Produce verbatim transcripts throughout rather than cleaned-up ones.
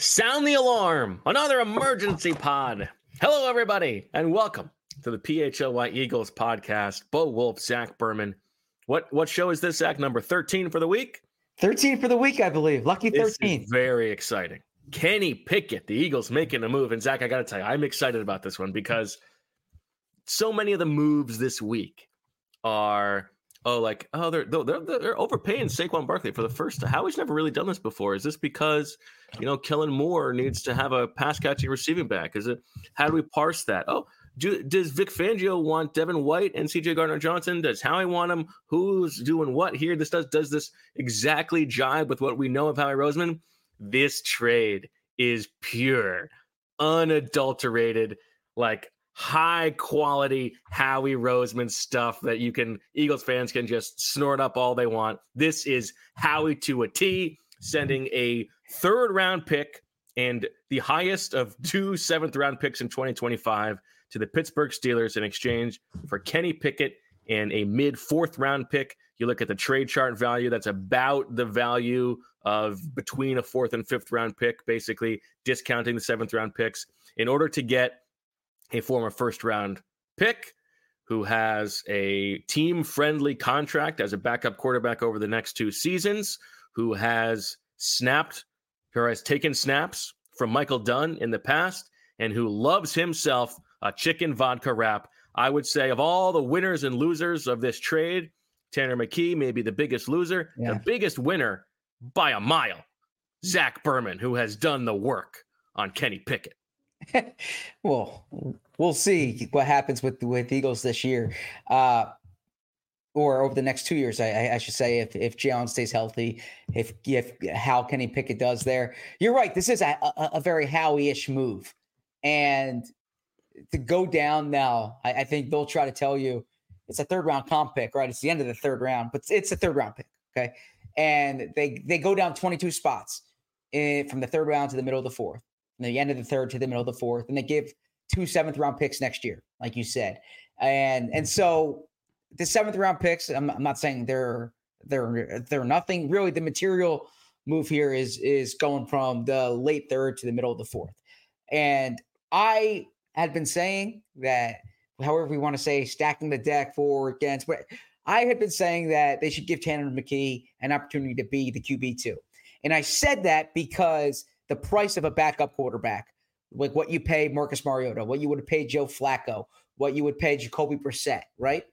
Sound the alarm! Another emergency pod. Hello, everybody, and welcome to the P H L Y Eagles podcast. Bo Wolf, Zach Berman. What what show is this, Zach? Number thirteen for the week? thirteen for the week, I believe. Lucky thirteen. This is very exciting. Kenny Pickett, the Eagles making a move. And Zach, I got to tell you, I'm excited about this one because so many of the moves this week are, oh, like, oh, they're they're, they're overpaying Saquon Barkley for the first time. Howie's never really done this before. Is this because, you know, Kellen Moore needs to have a pass-catching receiving back? Is it, how do we parse that? Oh, do, does Vic Fangio want Devin White and C J Gardner-Johnson? Does Howie want them? Who's doing what here? This does, does this exactly jibe with what we know of Howie Roseman? This trade is pure, unadulterated, like, high quality Howie Roseman stuff that you can, Eagles fans can just snort up all they want. This is Howie to a T, sending a third round pick and the highest of two seventh round picks in twenty twenty-five to the Pittsburgh Steelers in exchange for Kenny Pickett and a mid fourth round pick. You look at the trade chart value, that's about the value of between a fourth and fifth round pick, basically discounting the seventh round picks in order to get a former first round pick who has a team friendly contract as a backup quarterback over the next two seasons, who has snapped or has taken snaps from Michael Dunn in the past, and who loves himself a chicken vodka wrap. I would say of all the winners and losers of this trade, Tanner McKee may be the biggest loser, yeah. The biggest winner by a mile, Zach Berman, who has done the work on Kenny Pickett. Well, we'll see what happens with with Eagles this year, uh, or over the next two years. I, I should say, if if Jalen stays healthy, if if how Kenny Pickett does there. You're right. This is a, a, a very Howie-ish move, and to go down now, I, I think they'll try to tell you it's a third round comp pick, right? It's the end of the third round, but it's a third round pick, okay? And they they go down twenty-two spots in, from the third round to the middle of the fourth. From the end of the third to the middle of the fourth, and they give two seventh round picks next year, like you said. And and so the seventh round picks, I'm, I'm not saying they're they're they're nothing. Really, the material move here is is going from the late third to the middle of the fourth. And I had been saying that, however we want to say, stacking the deck for against, but I had been saying that they should give Tanner McKee an opportunity to be the Q B two. And I said that because the price of a backup quarterback, like what you pay Marcus Mariota, what you would have paid Joe Flacco, what you would pay Jacoby Brissett, right?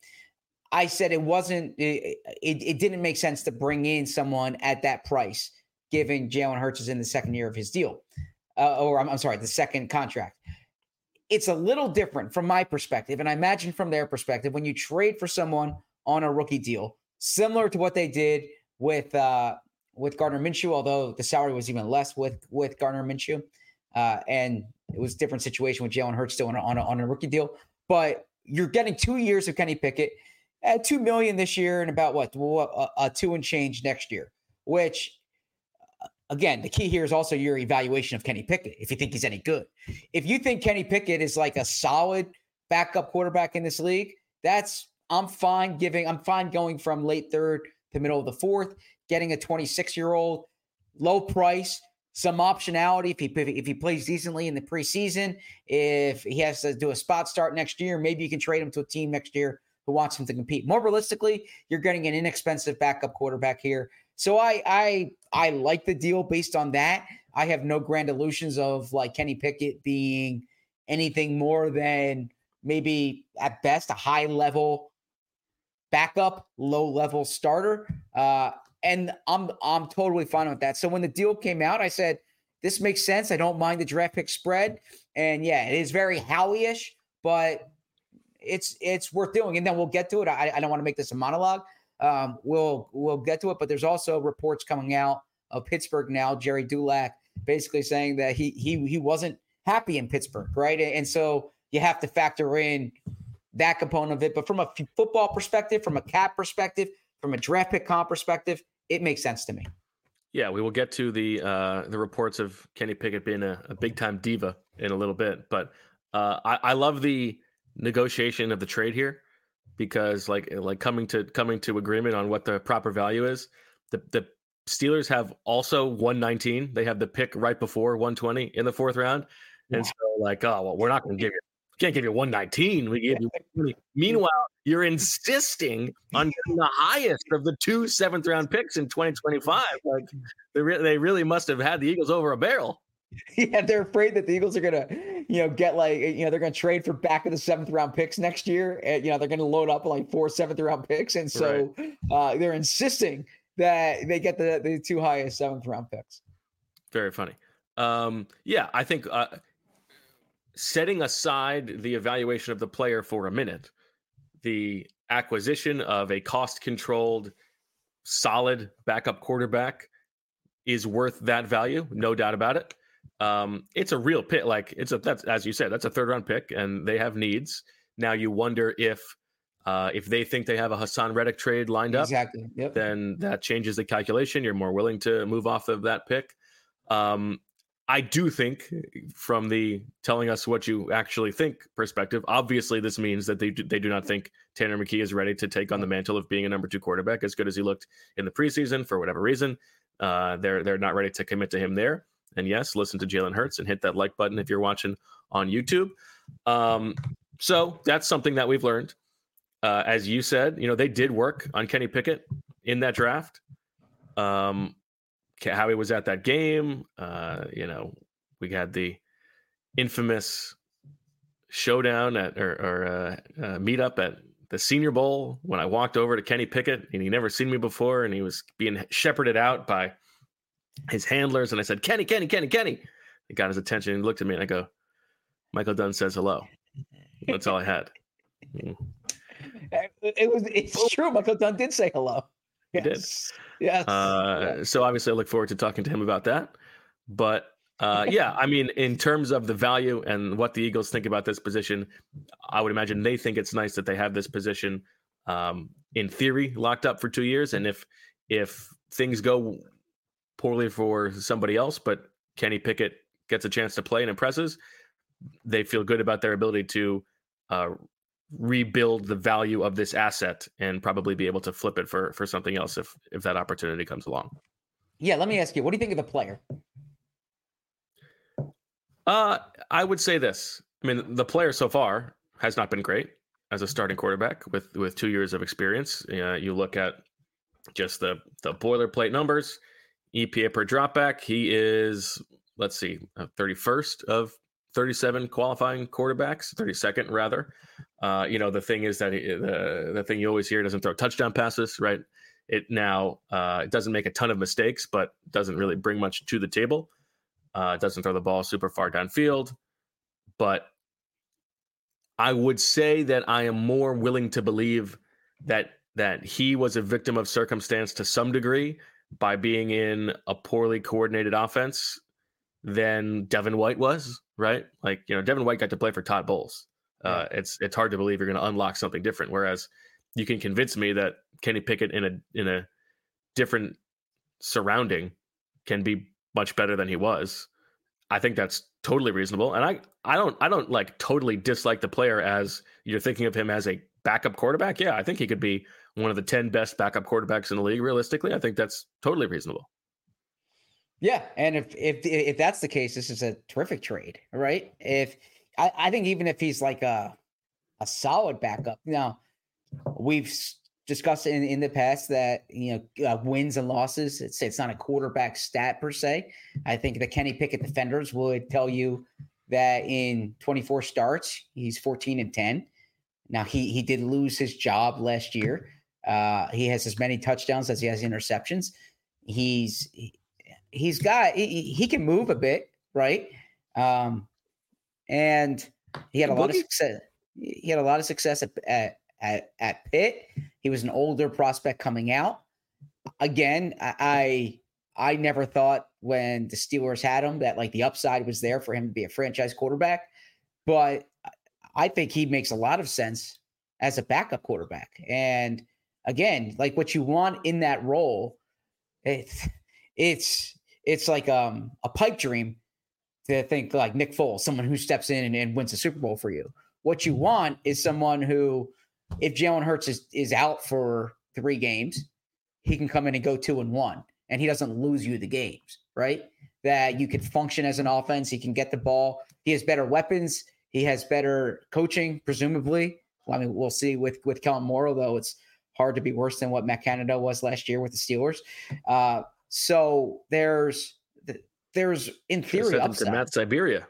I said it wasn't, it, it, it didn't make sense to bring in someone at that price, given Jalen Hurts is in the second year of his deal, uh, or I'm, I'm sorry, the second contract. It's a little different from my perspective, and I imagine from their perspective, when you trade for someone on a rookie deal, similar to what they did with uh, with Gardner Minshew, although the salary was even less with with Gardner Minshew, uh, and it was a different situation with Jalen Hurts still on a, on, a, on a rookie deal. But you're getting two years of Kenny Pickett at two million dollars this year and about what a, a two and change next year. Which, again, the key here is also your evaluation of Kenny Pickett. If you think he's any good, if you think Kenny Pickett is like a solid backup quarterback in this league, that's I'm fine giving. I'm fine going from late third to middle of the fourth. Getting a twenty-six-year-old, low price, some optionality if he if he plays decently in the preseason. If he has to do a spot start next year, maybe you can trade him to a team next year who wants him to compete. More realistically, you're getting an inexpensive backup quarterback here. So I I I like the deal based on that. I have no grand illusions of like Kenny Pickett being anything more than maybe at best a high-level backup, low-level starter. Uh, And I'm I'm totally fine with that. So when the deal came out, I said, this makes sense. I don't mind the draft pick spread. And yeah, it is very Howie-ish, but it's it's worth doing. And then we'll get to it. I, I don't want to make this a monologue. Um, we'll we'll get to it. But there's also reports coming out of Pittsburgh now, Jerry Dulac basically saying that he he he wasn't happy in Pittsburgh, right? And so you have to factor in that component of it. But from a f- football perspective, from a cap perspective, from a draft pick comp perspective, it makes sense to me. Yeah, we will get to the uh, the reports of Kenny Pickett being a, a big time diva in a little bit, but uh, I, I love the negotiation of the trade here because, like, like coming to coming to agreement on what the proper value is. The the Steelers have also one nineteen. They have the pick right before one twenty in the fourth round. And so like, oh, well, we're not going to give you, can't give you one nineteen. We give you one twenty. Meanwhile, you're insisting on getting the highest of the two seventh round picks in twenty twenty-five. Like they, re- they really must have had the Eagles over a barrel. Yeah, they're afraid that the Eagles are gonna, you know, get like, you know, they're gonna trade for back of the seventh round picks next year. And, you know, they're gonna load up like four seventh round picks, and so right. uh, they're insisting that they get the the two highest seventh round picks. Very funny. Um, yeah, I think uh, setting aside the evaluation of the player for a minute, the acquisition of a cost controlled, solid backup quarterback is worth that value, no doubt about it. Um, it's a real pick. Like it's a, that's, as you said, that's a third round pick and they have needs. Now you wonder if, uh, if they think they have a Hassan Reddick trade lined up, exactly. Yep. then that changes the calculation. You're more willing to move off of that pick. Um, I do think from the telling us what you actually think perspective, obviously this means that they do, they do not think Tanner McKee is ready to take on the mantle of being a number two quarterback as good as he looked in the preseason for whatever reason. Uh, they're, they're not ready to commit to him there. And yes, listen to Jalen Hurts and hit that like button if you're watching on YouTube. Um, so that's something that we've learned. Uh, as you said, you know, they did work on Kenny Pickett in that draft. Um, Howie was at that game. Uh, you know, we had the infamous showdown at or, or uh, uh, meetup at the Senior Bowl when I walked over to Kenny Pickett and he never seen me before and he was being shepherded out by his handlers. And I said, Kenny, Kenny, Kenny, Kenny. It got his attention and looked at me and I go, Michael Dunn says hello. That's all I had. Mm. It was, it's true. Michael Dunn did say hello. He yes. did. Yes. Uh, yes. So obviously I look forward to talking to him about that. But uh, yeah, I mean, in terms of the value and what the Eagles think about this position, I would imagine they think it's nice that they have this position um, in theory locked up for two years. And if, if things go poorly for somebody else, but Kenny Pickett gets a chance to play and impresses, they feel good about their ability to uh, rebuild the value of this asset and probably be able to flip it for, for something else if, if that opportunity comes along. Yeah. Let me ask you, what do you think of the player? Uh, I would say this. I mean, the player so far has not been great as a starting quarterback with, with two years of experience. Uh, you look at just the, the boilerplate numbers, E P A per dropback. He is, let's see, thirty-first of thirty-seven qualifying quarterbacks, thirty-second rather. Uh, you know, the thing is that he, the the thing you always hear, doesn't throw touchdown passes, right? It now uh, it doesn't make a ton of mistakes, but doesn't really bring much to the table. Uh, it doesn't throw the ball super far downfield, but I would say that I am more willing to believe that that he was a victim of circumstance to some degree by being in a poorly coordinated offense than Devin White was, right? Like, you know, Devin White got to play for Todd Bowles. Uh, yeah. It's it's hard to believe you're going to unlock something different. Whereas you can convince me that Kenny Pickett in a in a different surrounding can be much better than he was. I think that's totally reasonable. And I, I don't I don't like totally dislike the player as you're thinking of him as a backup quarterback. Yeah, I think he could be one of the ten best backup quarterbacks in the league. Realistically, I think that's totally reasonable. Yeah, and if if if that's the case, this is a terrific trade, right? If I, I think even if he's like a a solid backup, now we've discussed in, in the past that, you know, uh, wins and losses, it's it's not a quarterback stat per se. I think the Kenny Pickett defenders would tell you that in twenty-four starts, he's fourteen and ten. Now he he did lose his job last year. Uh, he has as many touchdowns as he has interceptions. He's he, he's got he, he can move a bit, right? Um, and he had a lot of success. He had a lot of success at, at at at Pitt. He was an older prospect coming out. Again, I I never thought when the Steelers had him that like the upside was there for him to be a franchise quarterback, but I think he makes a lot of sense as a backup quarterback. And again, like what you want in that role, it's it's it's like um, a pipe dream to think like Nick Foles, someone who steps in and, and wins a Super Bowl for you. What you want is someone who, if Jalen Hurts is, is out for three games, he can come in and go two and one and he doesn't lose you the games, right? That you could function as an offense. He can get the ball. He has better weapons. He has better coaching, presumably. Well, I mean, we'll see with, with Kellen Moore, although it's hard to be worse than what Matt Canada was last year with the Steelers. Uh, so there's, there's in theory, upside. Matt Siberia.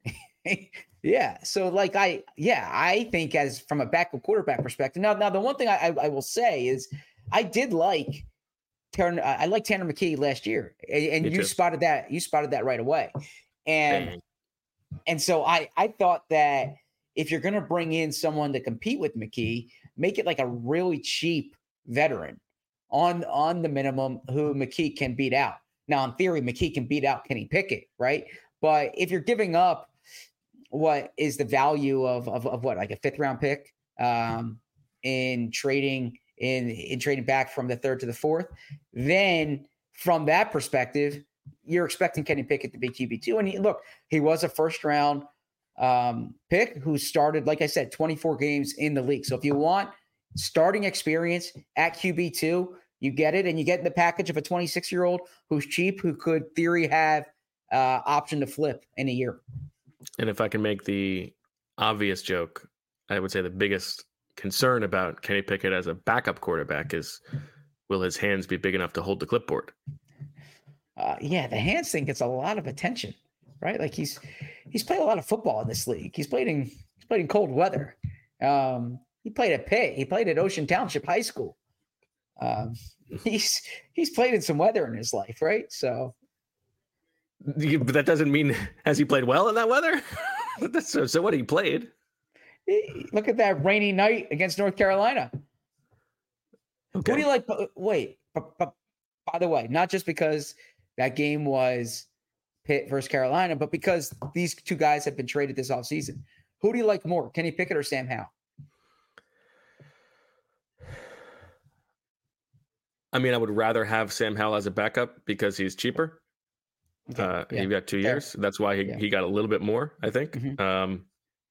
Yeah. So like I, yeah, I think as from a backup quarterback perspective. Now, now the one thing I, I, I will say is I did like Tanner, I like Tanner McKee last year, and, and you too. spotted that. You spotted that right away, and Dang. and so I I thought that if you're going to bring in someone to compete with McKee, make it like a really cheap veteran on on the minimum who McKee can beat out. Now, in theory, McKee can beat out Kenny Pickett, right? But if you're giving up what is the value of of, of what like a fifth round pick um, in trading. in in trading back from the third to the fourth, then from that perspective, you're expecting Kenny Pickett to be Q B two. And he, look, he was a first round um, pick who started, like I said, twenty-four games in the league. So if you want starting experience at Q B two, you get it. And you get in the package of a twenty-six year old who's cheap, who could theory have uh, option to flip in a year. And if I can make the obvious joke, I would say the biggest concern about Kenny Pickett as a backup quarterback is, will his hands be big enough to hold the clipboard? Uh, yeah, the hands thing gets a lot of attention, right? Like he's he's played a lot of football in this league. He's played in he's played in cold weather. Um, he played at Pitt. He played at Ocean Township High School. Um, he's he's played in some weather in his life, right? So, but that doesn't mean has he played well in that weather? so, so what he played. Look at that rainy night against North Carolina. Okay. Who do you like? Wait, but, but, by the way, not just because that game was Pitt versus Carolina, but because these two guys have been traded this offseason. Who do you like more, Kenny Pickett or Sam Howell? I mean, I would rather have Sam Howell as a backup because he's cheaper. Okay. Uh, yeah. He got two years. Fair. That's why he, yeah. he got a little bit more, I think. Mm-hmm. Um,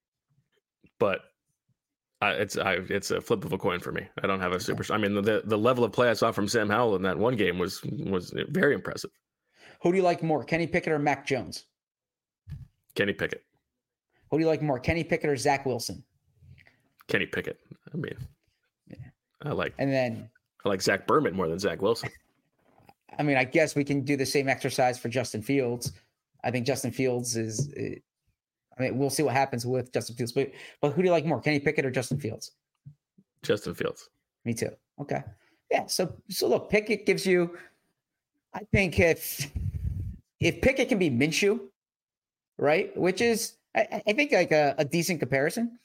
But I, it's I, it's a flip of a coin for me. I don't have a super. I mean, the the level of play I saw from Sam Howell in that one game was was very impressive. Who do you like more, Kenny Pickett or Mac Jones? Kenny Pickett. Who do you like more, Kenny Pickett or Zach Wilson? Kenny Pickett. I mean, yeah. I like and then I like Zach Berman more than Zach Wilson. I mean, I guess we can do the same exercise for Justin Fields. I think Justin Fields is. is I mean, we'll see what happens with Justin Fields, but but who do you like more, Kenny Pickett or Justin Fields? Justin Fields. Me too. Okay. Yeah. So so look, Pickett gives you. I think if if Pickett can be Minshew, right, which is I, I think like a, a decent comparison.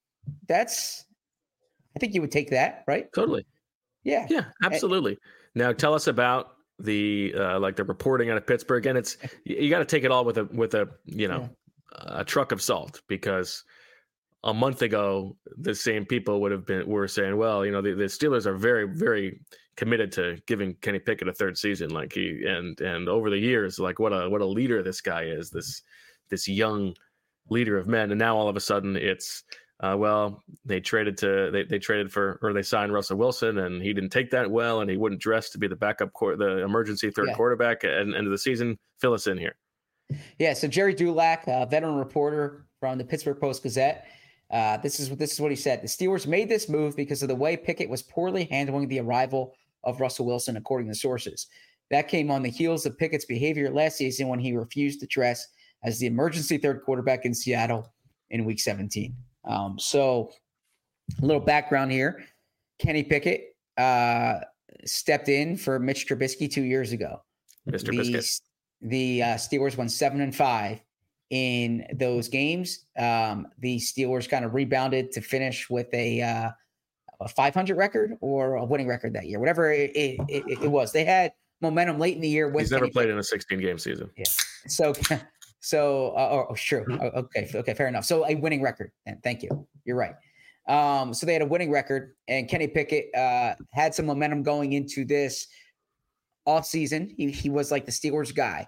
That's I think you would take that, right? Totally. Yeah. Yeah. Absolutely. And, now tell us about the uh, like the reporting out of Pittsburgh, and it's you, you got to take it all with a with a you know. Yeah. a truck of salt, because a month ago, the same people would have been, were saying, well, you know, the, the Steelers are very, very committed to giving Kenny Pickett a third season. Like he, and, and over the years, like what a, what a leader this guy is, this, this young leader of men. And now all of a sudden it's, uh, well, they traded to, they, they traded for, or they signed Russell Wilson, and he didn't take that well, and he wouldn't dress to be the backup, court, the emergency third yeah. quarterback at the end of the season. Fill us in here. Yeah, so Jerry Dulac, a veteran reporter from the Pittsburgh Post-Gazette, uh, this is this is what he said. The Steelers made this move because of the way Pickett was poorly handling the arrival of Russell Wilson, according to sources. That came on the heels of Pickett's behavior last season when he refused to dress as the emergency third quarterback in Seattle in Week seventeen. Um, so a little background here. Kenny Pickett uh, stepped in for Mitch Trubisky two years ago. Mister The, Biscuit. The uh, Steelers won seven and five in those games. Um, the Steelers kind of rebounded to finish with a, uh, a five hundred record or a winning record that year, whatever it, it, it, it was. They had momentum late in the year. With He's never played in a sixteen game season. Yeah. So, so uh, oh, oh, sure. Okay. Okay. Fair enough. So a winning record. And thank you. You're right. Um, so they had a winning record, and Kenny Pickett uh, had some momentum going into this off season. He, he was like the Steelers guy.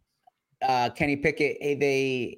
Uh, Kenny Pickett, they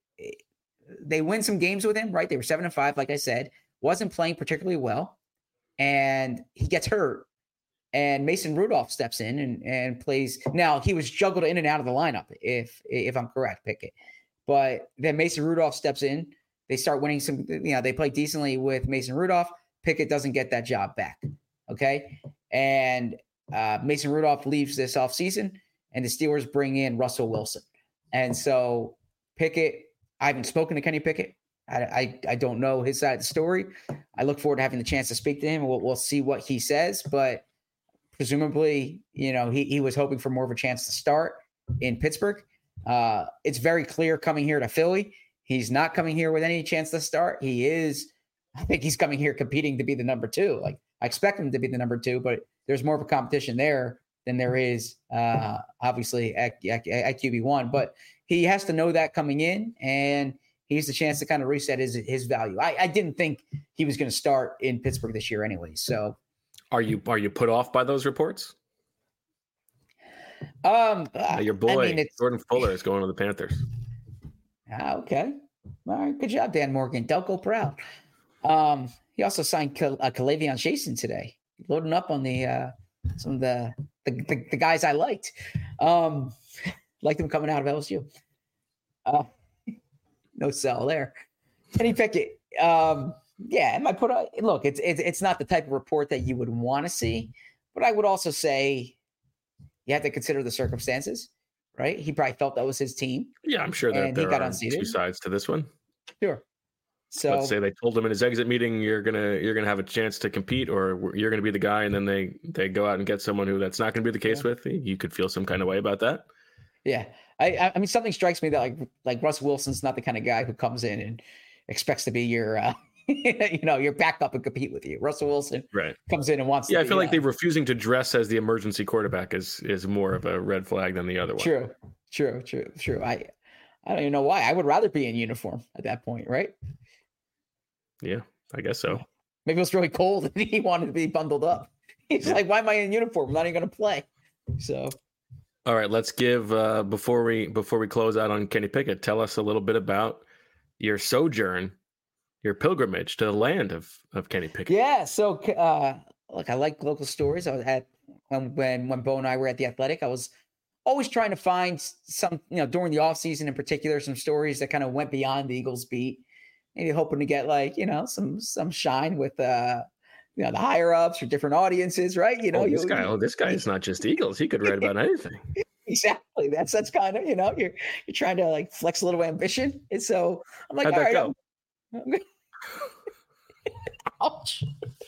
they win some games with him, right? They were seven and five, like I said. Wasn't playing particularly well, and he gets hurt and Mason Rudolph steps in and, and plays. Now he was juggled in and out of the lineup, if if I'm correct, Pickett. But then Mason Rudolph steps in. They start winning some. You know, they play decently with Mason Rudolph. Pickett doesn't get that job back. Okay, and uh, Mason Rudolph leaves this offseason, and the Steelers bring in Russell Wilson. And so Pickett, I haven't spoken to Kenny Pickett. I, I, I don't know his side of the story. I look forward to having the chance to speak to him. We'll, we'll see what he says, but presumably, you know, he, he was hoping for more of a chance to start in Pittsburgh. Uh, it's very clear coming here to Philly, he's not coming here with any chance to start. He is, I think he's coming here competing to be the number two. Like, I expect him to be the number two, but there's more of a competition there than there is, uh, obviously, at, at, at Q B one. But he has to know that coming in, and he has the chance to kind of reset his his value. I, I didn't think he was going to start in Pittsburgh this year anyway. So, are you are you put off by those reports? Um, uh, your boy I mean, Jordan Fuller is going to the Panthers. Okay, all right, good job, Dan Morgan. Delco proud. Um, he also signed Cal- uh, Kalavion Jason today, loading up on the uh, some of the the, the the guys I liked. Um, liked them coming out of L S U. Uh, no sell there. Kenny Pickett. Um, yeah, am I put on? Look, it's it's it's not the type of report that you would want to see, but I would also say you have to consider the circumstances, right? He probably felt that was his team. Yeah, I'm sure that there are two sides to this one. Sure. So let's say they told him in his exit meeting, you're gonna you're gonna have a chance to compete, or you're gonna be the guy, and then they they go out and get someone who that's not gonna be the case yeah. with. You could feel some kind of way about that. Yeah, I I mean something strikes me that like like Russell Wilson's not the kind of guy who comes in and expects to be your uh, you know your backup and compete with you. Russell Wilson right comes in and wants. Yeah, to I feel be, like uh, they refusing to dress as the emergency quarterback is is more of a red flag than the other one. True, true, true, true. I I don't even know why. I would rather be in uniform at that point, right? Yeah, I guess so. Maybe it was really cold and he wanted to be bundled up. He's yeah. like, why am I in uniform? I'm not even going to play. So, all right, let's give uh, before we before we close out on Kenny Pickett. Tell us a little bit about your sojourn, your pilgrimage to the land of of Kenny Pickett. Yeah. So, uh, look, I like local stories. I was at when when when Bo and I were at the Athletic. I was always trying to find some, you know, during the off season in particular, some stories that kind of went beyond the Eagles beat. Maybe hoping to get like, you know, some some shine with uh you know the higher ups or different audiences, right? You know, oh, this you, guy, oh, this guy is not just Eagles. He could write about anything. Exactly. That's that's kind of, you know, you're you're trying to like flex a little ambition. And so I'm like, how'd all that right, go? I'm... Ouch.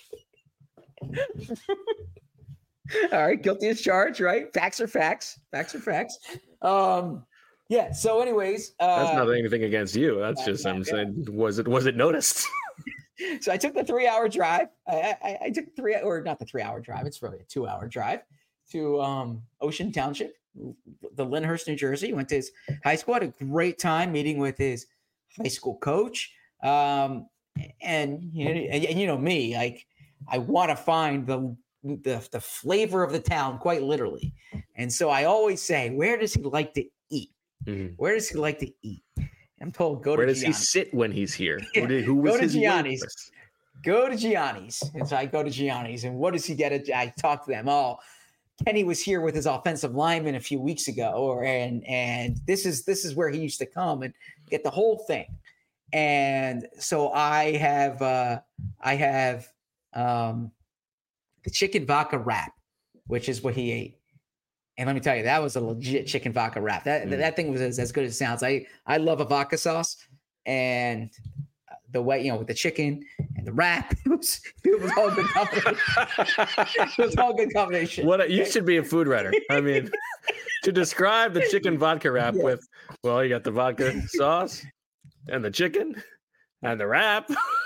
All right, guilty as charged, right? Facts are facts. Facts are facts. Um Yeah. So, anyways, uh, that's not anything against you. That's just I'm saying, was it was it noticed? So I took the three-hour drive. I, I, I took three or not the three-hour drive. It's really a two-hour drive to um, Ocean Township, the Lyndhurst, New Jersey. Went to his high school. Had a great time meeting with his high school coach. Um, and, you know, and, and you know me, like I want to find the the the flavor of the town, quite literally. And so I always say, where does he like to eat? Mm-hmm. Where does he like to eat? I'm told go Where to does Gianni's. he sit when he's here? Who, did, who was go to his Gianni's. waitress? Go to Gianni's. And so I go to Gianni's. And what does he get? At, I talk to them. Oh, Kenny was here with his offensive lineman a few weeks ago, or and and this is this is where he used to come and get the whole thing. And so I have uh, I have um, the chicken vodka wrap, which is what he ate. And let me tell you, that was a legit chicken vodka wrap. That mm. that thing was as, as good as it sounds. I, I love a vodka sauce, and the way, you know, with the chicken and the wrap, it was it was all a good combination. It was all a good combination. What a, you should be a food writer. I mean, to describe the chicken vodka wrap yes. with, well, you got the vodka sauce and the chicken and the wrap.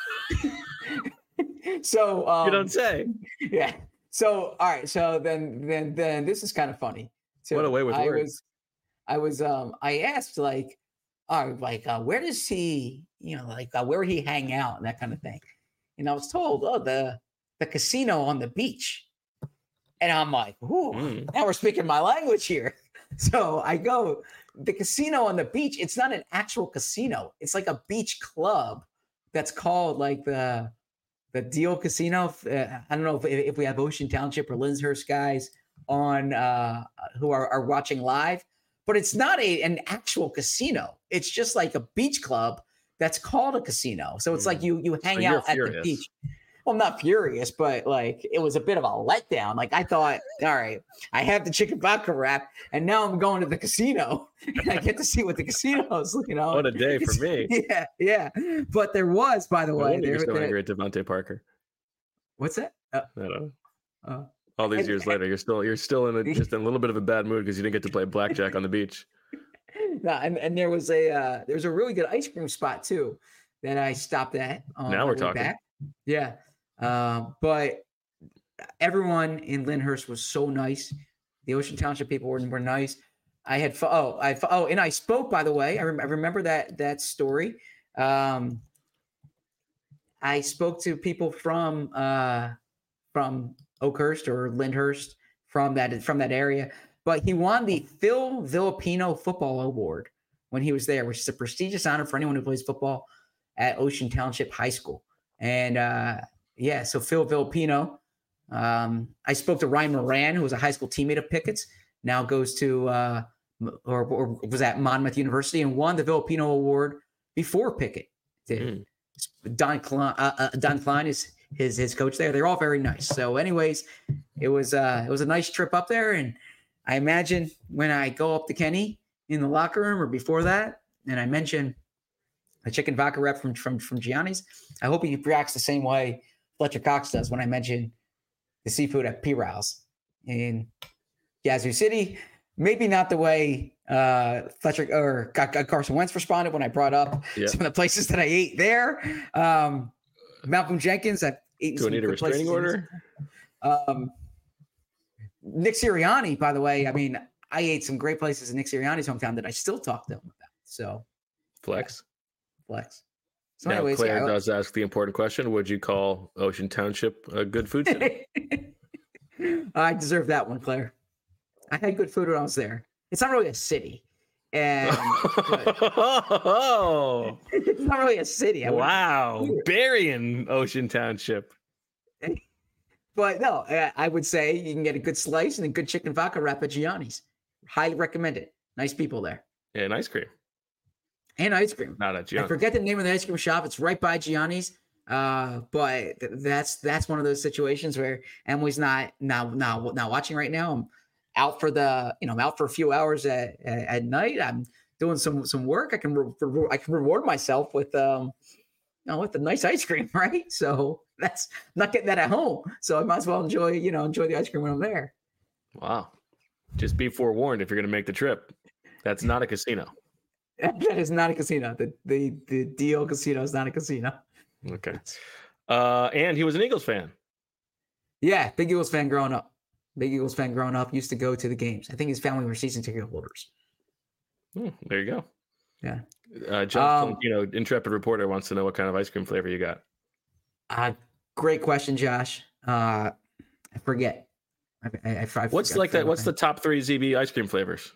So um, you don't say. Yeah. So, all right. So then, then, then this is kind of funny. So what a way with I words. was, I was, um, I asked like, all right, like, uh, where does he, you know, like, uh, where would he hang out and that kind of thing. And I was told, oh, the, the casino on the beach. And I'm like, ooh, mm. now we're speaking my language here. So I go, the casino on the beach. It's not an actual casino. It's like a beach club that's called like the, the Deal Casino. Uh, I don't know if, if we have Ocean Township or Lyndhurst guys on uh, who are, are watching live, but it's not a an actual casino. It's just like a beach club that's called a casino. So it's mm. like you you hang so out at the beach. Well, I'm not furious, but like it was a bit of a letdown. Like I thought, all right, I have the chicken vodka wrap, and now I'm going to the casino, and I get to see what the casino is. You know, what a day for me. Yeah, yeah. But there was, by the no way, there, you're so there, angry at Devontae Parker. What's that? Uh, I don't know. Uh, All these years later, you're still you're still in a, just in a little bit of a bad mood because you didn't get to play blackjack on the beach. No, and, and there was a uh, there was a really good ice cream spot too that I stopped at. On now we're talking. Back. Yeah. Um, but everyone in Lyndhurst was so nice. The Ocean Township people were, were nice. I had oh I oh and I spoke, by the way. I, rem- I remember that that story. Um, I spoke to people from uh, from Oakhurst or Lyndhurst from that from that area. But he won the Phil Villapino Football Award when he was there, which is a prestigious honor for anyone who plays football at Ocean Township High School. And uh, yeah, so Phil Villapino. Um, I spoke to Ryan Moran, who was a high school teammate of Pickett's, now goes to uh, or, or was at Monmouth University and won the Villapino Award before Pickett did. Mm. Don Klein, uh, uh, Don Klein is his his coach there. They're all very nice. So, anyways, it was uh, it was a nice trip up there, and I imagine when I go up to Kenny in the locker room or before that, and I mention a chicken vodka rep from from from Gianni's, I hope he reacts the same way Fletcher Cox does when I mention the seafood at P-Rouse in Yazoo City. Maybe not the way uh, Fletcher or Carson Wentz responded when I brought up yeah. some of the places that I ate there. Um, Malcolm Jenkins, I've eaten Do some I need a restraining order? Um, Nick Sirianni, by the way, I mean, I ate some great places in Nick Sirianni's hometown that I still talk to him about. So, flex, yeah. flex. So now, anyways, Claire yeah, does ask the important question: would you call Ocean Township a good food city? I deserve that one, Claire. I had good food when I was there. It's not really a city, and oh, it's not really a city. I wow, burying Ocean Township. But no, I would say you can get a good slice and a good chicken vodka wrap at Gianni's. Highly recommend it. Nice people there. Yeah, and ice cream. And ice cream. Not at Gianni's. I forget the name of the ice cream shop. It's right by Gianni's. Uh, but that's that's one of those situations where Emily's not now now not watching right now. I'm out for the you know I'm out for a few hours at at, at night. I'm doing some some work. I can re- I can reward myself with um you know with the nice ice cream, right? So that's I'm not getting that at home. So I might as well enjoy you know enjoy the ice cream when I'm there. Wow, just be forewarned if you're going to make the trip. That's not a casino. That is not a casino. The the the Deal Casino is not a casino. Okay. Uh, and he was an Eagles fan. Yeah, big Eagles fan growing up. Big Eagles fan growing up. Used to go to the games. I think his family were season ticket holders. Hmm, there you go. Yeah. Uh, John, um, you know, intrepid reporter wants to know what kind of ice cream flavor you got. Uh, great question, Josh. Uh, I forget. I, I, I, I what's forget, like that? What's the top three Z B ice cream flavors?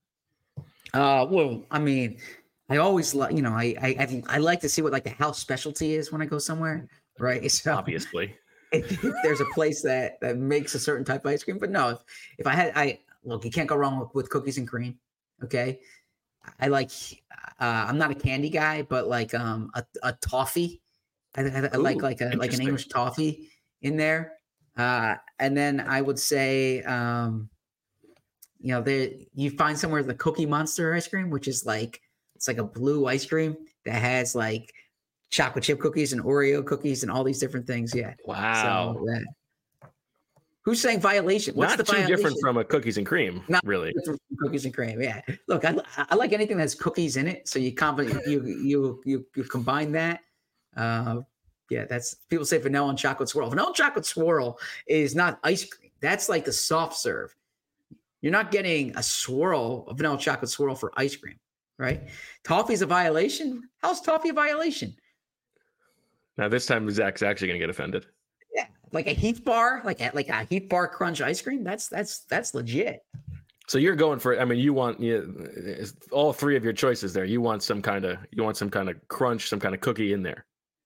Uh, well, I mean, I always like, you know, I, I, I like to see what like the house specialty is when I go somewhere, right? So obviously, if, if there's a place that, that makes a certain type of ice cream, but no, if, if I had, I look, you can't go wrong with, with cookies and cream. Okay. I like, uh, I'm not a candy guy, but like, um, a, a toffee. I, I, I Ooh, like, like a, like an English toffee in there. Uh, and then I would say, um, you know, there you find somewhere the Cookie Monster ice cream, which is like, it's like a blue ice cream that has like chocolate chip cookies and Oreo cookies and all these different things. Yeah. Wow. So, yeah. Who's saying violation? What's Not the too violation? different from a cookies and cream, Not really. Cookies and cream. Yeah. Look, I, I like anything that has cookies in it. So you combine, you, you, you, you combine that. Uh, yeah. That's people say vanilla and chocolate swirl. Vanilla and chocolate swirl is not ice cream. That's like the soft serve. You're not getting a swirl, a vanilla chocolate swirl for ice cream, right? Toffee's a violation. How's toffee a violation? Now this time Zach's actually going to get offended. Yeah, like a Heath bar, like a, like a Heath bar crunch ice cream. That's that's that's legit. So you're going for, I mean, you want you, all three of your choices there. You want some kind of, you want some kind of crunch, some kind of cookie in there.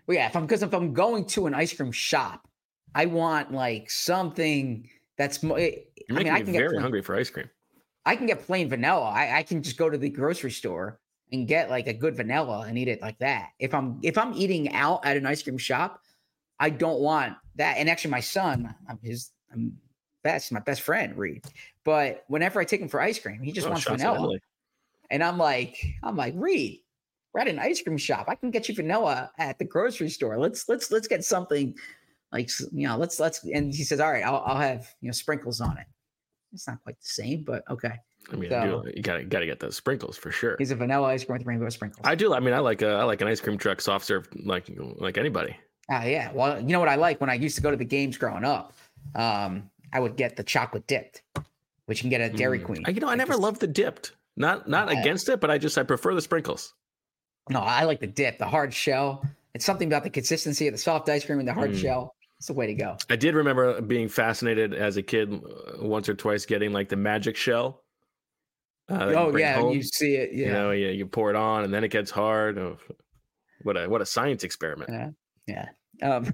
Well, yeah, if I'm because if I'm going to an ice cream shop, I want like something that's more. I You're mean, making I me can very get plain, hungry for ice cream. I can get plain vanilla. I, I can just go to the grocery store and get like a good vanilla and eat it like that. If I'm if I'm eating out at an ice cream shop, I don't want that. And actually, my son, I'm his I'm best, my best friend, Reed. But whenever I take him for ice cream, he just Oh, wants shots at vanilla. Emily. And I'm like, I'm like, Reed, we're at an ice cream shop. I can get you vanilla at the grocery store. Let's let's let's get something like you know, let's let's and he says, all right, I'll I'll have you know sprinkles on it. It's not quite the same, but okay. I mean, So- I do, you gotta gotta get those sprinkles for sure. He's a vanilla ice cream with rainbow sprinkles. I do. I mean, I like a, I like an ice cream truck soft serve like like anybody. Ah, yeah. Well, you know what I like when I used to go to the games growing up. Um, I would get the chocolate dipped, which you can get at Dairy Mm. Queen. I- You know, I Like never this- loved the dipped. Not not I- against it, but I just I prefer the sprinkles. No, I like the dip, the hard shell. It's something about the consistency of the soft ice cream and the hard Mm. shell. It's the way to go. I did remember being fascinated as a kid uh, once or twice getting like the magic shell. Uh, that you Oh bring yeah, home. you see it. Yeah, You know, you, you pour it on and then it gets hard. Oh, what a what a science experiment. yeah, yeah. Um,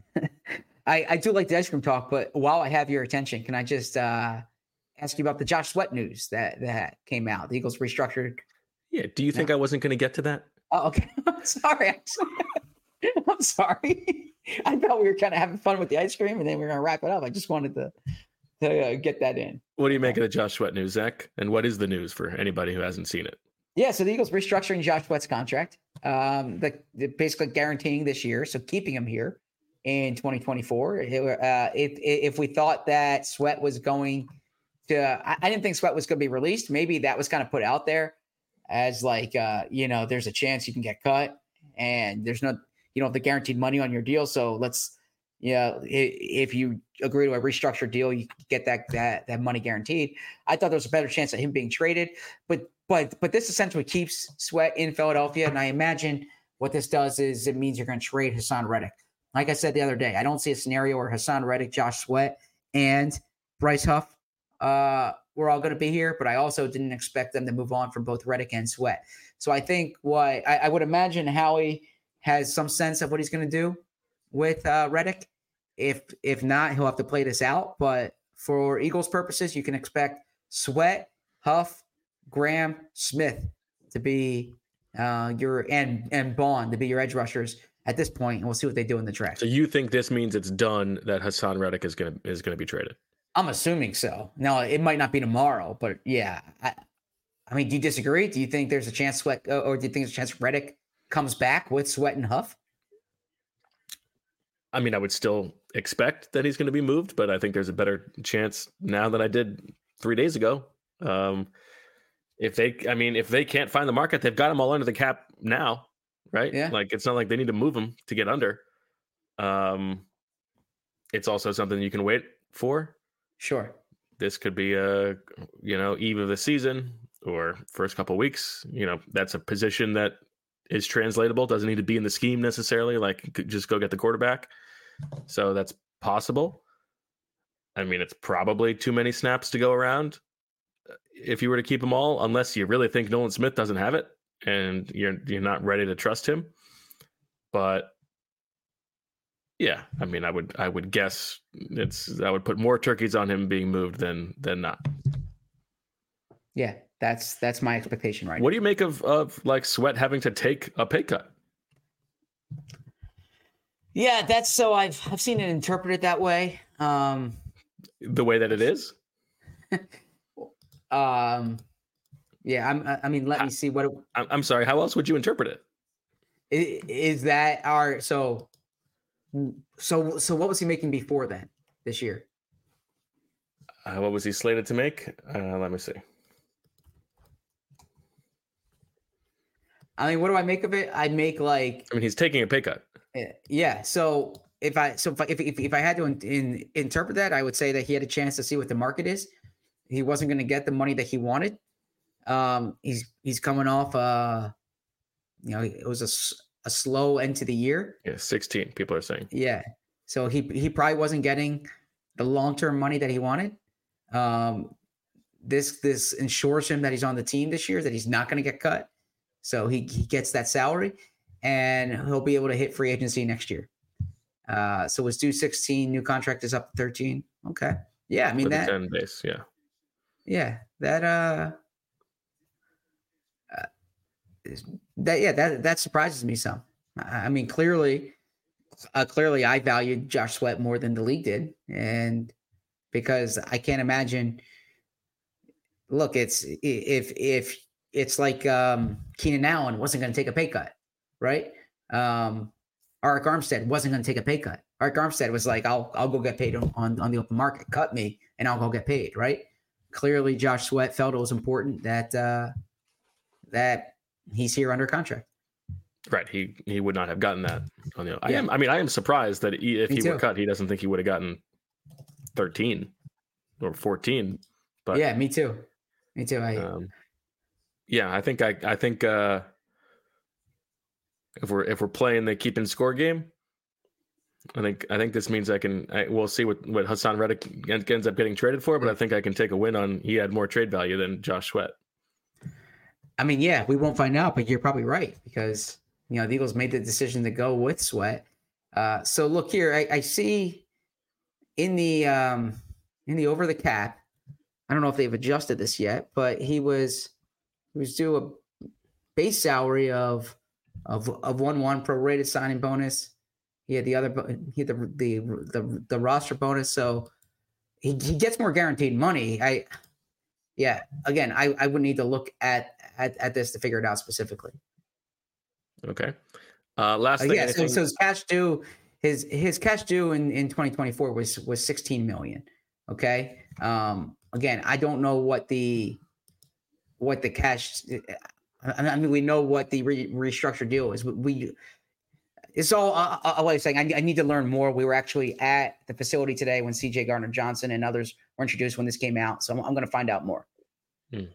I I do like the ice cream talk, but while I have your attention, can I just uh, ask you about the Josh Sweat news that that came out? The Eagles restructured. Yeah. Do you think I wasn't going to get to that? Oh, okay. I'm sorry. I'm sorry. I'm sorry. I thought we were kind of having fun with the ice cream, and then we are gonna wrap it up. I just wanted to to uh, get that in. What do you make of the Josh Sweat news, Zach? And what is the news for anybody who hasn't seen it? Yeah, so the Eagles restructuring Josh Sweat's contract, um, the, the basically guaranteeing this year, so keeping him here in twenty twenty-four. It, uh, if if we thought that Sweat was going to, I, I didn't think Sweat was going to be released. Maybe that was kind of put out there as like, uh, you know, there's a chance you can get cut, and there's no, you don't have the guaranteed money on your deal. So let's, yeah, if you agree to a restructured deal, you get that that that money guaranteed. I thought there was a better chance of him being traded, but but but this essentially keeps Sweat in Philadelphia, and I imagine what this does is it means you're going to trade Hassan Reddick. Like I said the other day, I don't see a scenario where Hassan Reddick, Josh Sweat, and Bryce Huff uh, were all going to be here, but I also didn't expect them to move on from both Reddick and Sweat. So I think what I, I would imagine Howie has some sense of what he's going to do with uh, Reddick. If if not, he'll have to play this out. But for Eagles purposes, you can expect Sweat, Huff, Graham, Smith to be uh, your and and Bond to be your edge rushers at this point, and we'll see what they do in the draft. So you think this means it's done that Hassan Reddick is gonna is gonna be traded? I'm assuming so. Now it might not be tomorrow, but yeah. I, I mean, do you disagree? Do you think there's a chance Sweat, or do you think there's a chance Reddick comes back with Sweat and Huff? I mean, I would still expect that he's going to be moved, but I think there's a better chance now than I did three days ago. Um, if they, I mean, if they can't find the market, they've got them all under the cap now, right? Yeah. Like it's not like they need to move them to get under. Um, it's also something you can wait for. Sure. This could be a, you know, eve of the season or first couple weeks. You know, that's a position that is translatable. Doesn't need to be in the scheme necessarily. Like just go get the quarterback. So that's possible. I mean, it's probably too many snaps to go around if you were to keep them all, unless you really think Nolan Smith doesn't have it and you're you're not ready to trust him. But yeah, I mean, I would I would guess it's I would put more turkeys on him being moved than than not. Yeah, that's that's my expectation right What do you make of of like Sweat having to take a pay cut? Yeah, that's so I've I've seen it interpreted that way. Um, The way that it is? um, yeah, I'm. I mean, let me see what it, I'm, I'm sorry. How else would you interpret it? i- is that. Our so so so what was he making before then this year? Uh, what was he slated to make? Uh, let me see. I mean, what do I make of it? I make like I mean, he's taking a pay cut. eh, yeah. So if I so if I, if if, if I had to in, in, interpret that, I would say that he had a chance to see what the market is. He wasn't going to get the money that he wanted. Um, he's he's coming off. Uh, you know, it was a, s- a slow end to the year. Yeah, sixteen. People are saying. Yeah. So he he probably wasn't getting the long term money that he wanted. Um, this this ensures him that he's on the team this year, that he's not going to get cut. So he he gets that salary, and he'll be able to hit free agency next year. Uh, so was due sixteen, new contract is up to thirteen. Okay. Yeah, I mean With that ten base, yeah. Yeah, that uh, uh that yeah, that that surprises me some. I, I mean, clearly uh, clearly I valued Josh Sweat more than the league did, and because I can't imagine look, it's if if it's like um Keenan Allen wasn't going to take a pay cut, right? Um Arik Armstead wasn't going to take a pay cut. Arik Armstead was like, I'll I'll go get paid on, on, on the open market. Cut me and I'll go get paid, right? Clearly, Josh Sweat felt it was important that uh, that he's here under contract. Right. He he would not have gotten that. On the, yeah. I am. I mean, I am surprised that he, if me he too. were cut, he doesn't think he would have gotten thirteen or fourteen. But yeah, me too. Me too. I, um, yeah, I think I I think. Uh, If we're if we're playing the keep and score game, I think I think this means I can. I, we'll see what, what Hassan Reddick ends up getting traded for, but I think I can take a win on. He had more trade value than Josh Sweat. I mean, yeah, we won't find out, but you're probably right because you know the Eagles made the decision to go with Sweat. Uh, so look here, I, I see in the um, in the over the cap. I don't know if they've adjusted this yet, but he was he was due a base salary of. Of of one one prorated signing bonus, he had the other he had the the the, the roster bonus, so he, he gets more guaranteed money. I yeah, again, I, I would need to look at, at at this to figure it out specifically. Okay, uh, last uh, thing. Yeah, so, so his cash due his his cash due in, in twenty twenty-four was was sixteen million. Okay, um, again, I don't know what the what the cash. I mean, we know what the re- restructured deal is. We, we it's all uh, uh, what I'm saying. I, I need to learn more. We were actually at the facility today when C J Gardner-Johnson and others were introduced when this came out. So I'm, I'm going to find out more. Hmm.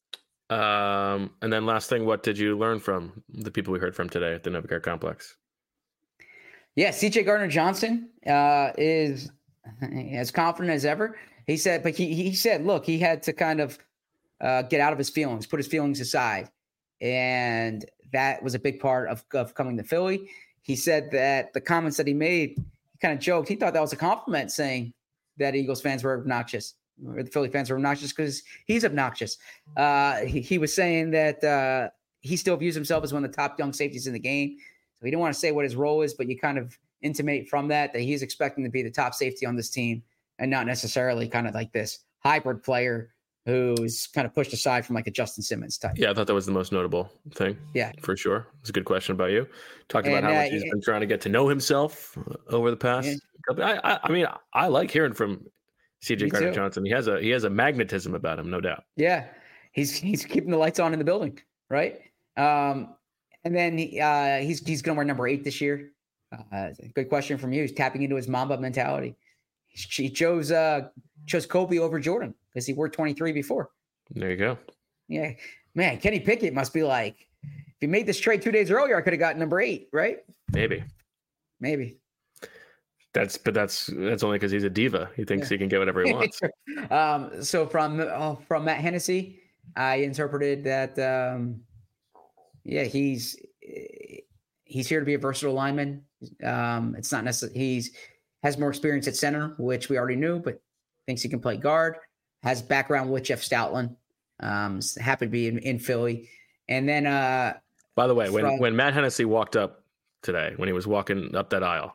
Um, and then last thing, what did you learn from the people we heard from today at the Novacare Complex? Yeah, C J Gardner-Johnson uh, is as confident as ever. He said, but he he said, look, he had to kind of uh, get out of his feelings, put his feelings aside. And that was a big part of, of coming to Philly. He said that the comments that he made, he kind of joked. He thought that was a compliment, saying that Eagles fans were obnoxious, or the Philly fans were obnoxious because he's obnoxious. Uh, he, he was saying that uh, he still views himself as one of the top young safeties in the game. So he didn't want to say what his role is, but you kind of intimate from that that he's expecting to be the top safety on this team and not necessarily kind of like this hybrid player who's kind of pushed aside from like a Justin Simmons type. Yeah, I thought that was the most notable thing. Yeah, for sure. It's a good question about you. Talking and, about how much uh, he's it, been trying to get to know himself over the past. Yeah. I, I, I mean, I like hearing from C J Gardner-Johnson. He has a he has a magnetism about him, no doubt. Yeah, he's he's keeping the lights on in the building, right? Um, and then he, uh, he's he's going to wear number eight this year. Uh, good question from you. He's tapping into his Mamba mentality. He chose uh, chose Kobe over Jordan because he wore twenty-three before. There you go. Yeah, man, Kenny Pickett must be like, if he made this trade two days earlier, I could have gotten number eight, right? Maybe, maybe. That's but that's that's only because he's a diva. He thinks yeah. he can get whatever he wants. um, so from uh, from Matt Hennessy, I interpreted that. Um, yeah, he's he's here to be a versatile lineman. Um, it's not necessarily he's has more experience at center, which we already knew, but thinks he can play guard. Has background with Jeff Stoutland. Um, happy to be in, in Philly. And then, uh, by the way, when, from, when Matt Hennessy walked up today, when he was walking up that aisle,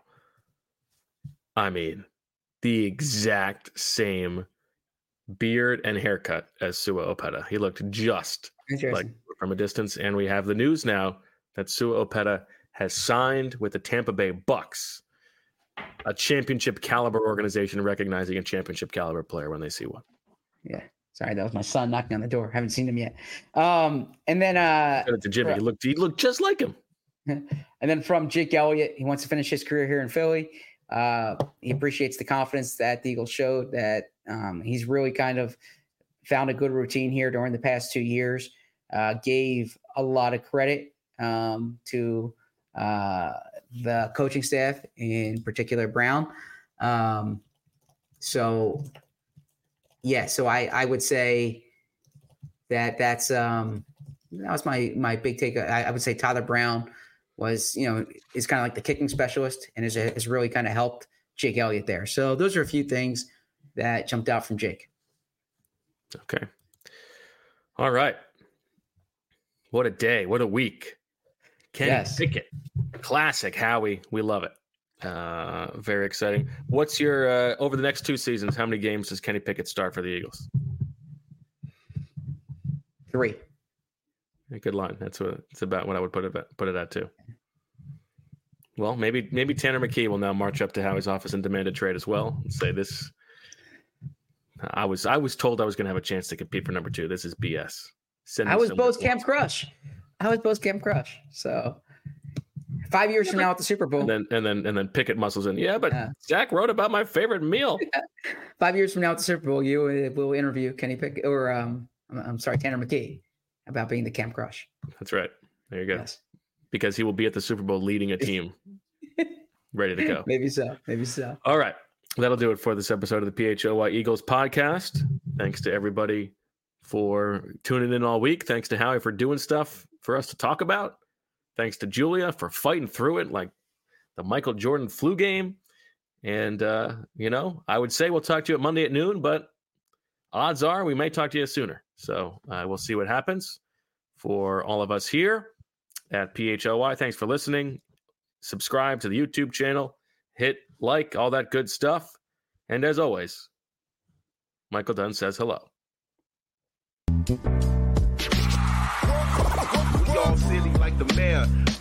I mean, the exact same beard and haircut as Sua Opeta. He looked just like from a distance. And we have the news now that Sua Opeta has signed with the Tampa Bay Bucks, a championship caliber organization recognizing a championship caliber player when they see one. Yeah. Sorry, that was my son knocking on the door. Haven't seen him yet. Um, and then uh to Jimmy, he looked he looked just like him. And then from Jake Elliott, he wants to finish his career here in Philly. Uh, he appreciates the confidence that the Eagles showed, that um, he's really kind of found a good routine here during the past two years. Uh, gave a lot of credit um, to uh, the coaching staff, in particular Brown. Um, so. Yeah, so I, I would say that that's um, that was my my big take. I, I would say Tyler Brown was, you know, is kind of like the kicking specialist and is, has really kind of helped Jake Elliott there. So those are a few things that jumped out from Jake. Okay. All right. What a day. What a week. Kenny Yes. Pickett. Classic Howie. We love it. Uh, very exciting. What's your, uh, over the next two seasons, how many games does Kenny Pickett start for the Eagles? Three. A good line. That's what it's about. What I would put it at, put it at too. Well, maybe maybe Tanner McKee will now march up to Howie's office and demand a trade as well and say this. I was I was told I was going to have a chance to compete for number two. This is B S. Send I was some Bo's reports. Camp Crush. I was Bo's Camp Crush. So five years yeah, from now at the Super Bowl, and then and then and then Pickett muscles in. Yeah, but yeah. Zach wrote about my favorite meal. Five years from now at the Super Bowl, you will interview Kenny Pickett or um, I'm sorry, Tanner McKee about being the Camp Crush. That's right. There you go. Yes. Because he will be at the Super Bowl leading a team ready to go. Maybe so. Maybe so. All right. That'll do it for this episode of the P H O Y Eagles podcast. Thanks to everybody for tuning in all week. Thanks to Howie for doing stuff for us to talk about. Thanks to Julia for fighting through it like the Michael Jordan flu game. And, uh, you know, I would say we'll talk to you at Monday at noon, but odds are we may talk to you sooner. So uh, we'll see what happens. For all of us here at P H O Y, thanks for listening. Subscribe to the YouTube channel. Hit like, all that good stuff. And as always, Michael Dunn says hello. We all silly like the mayor.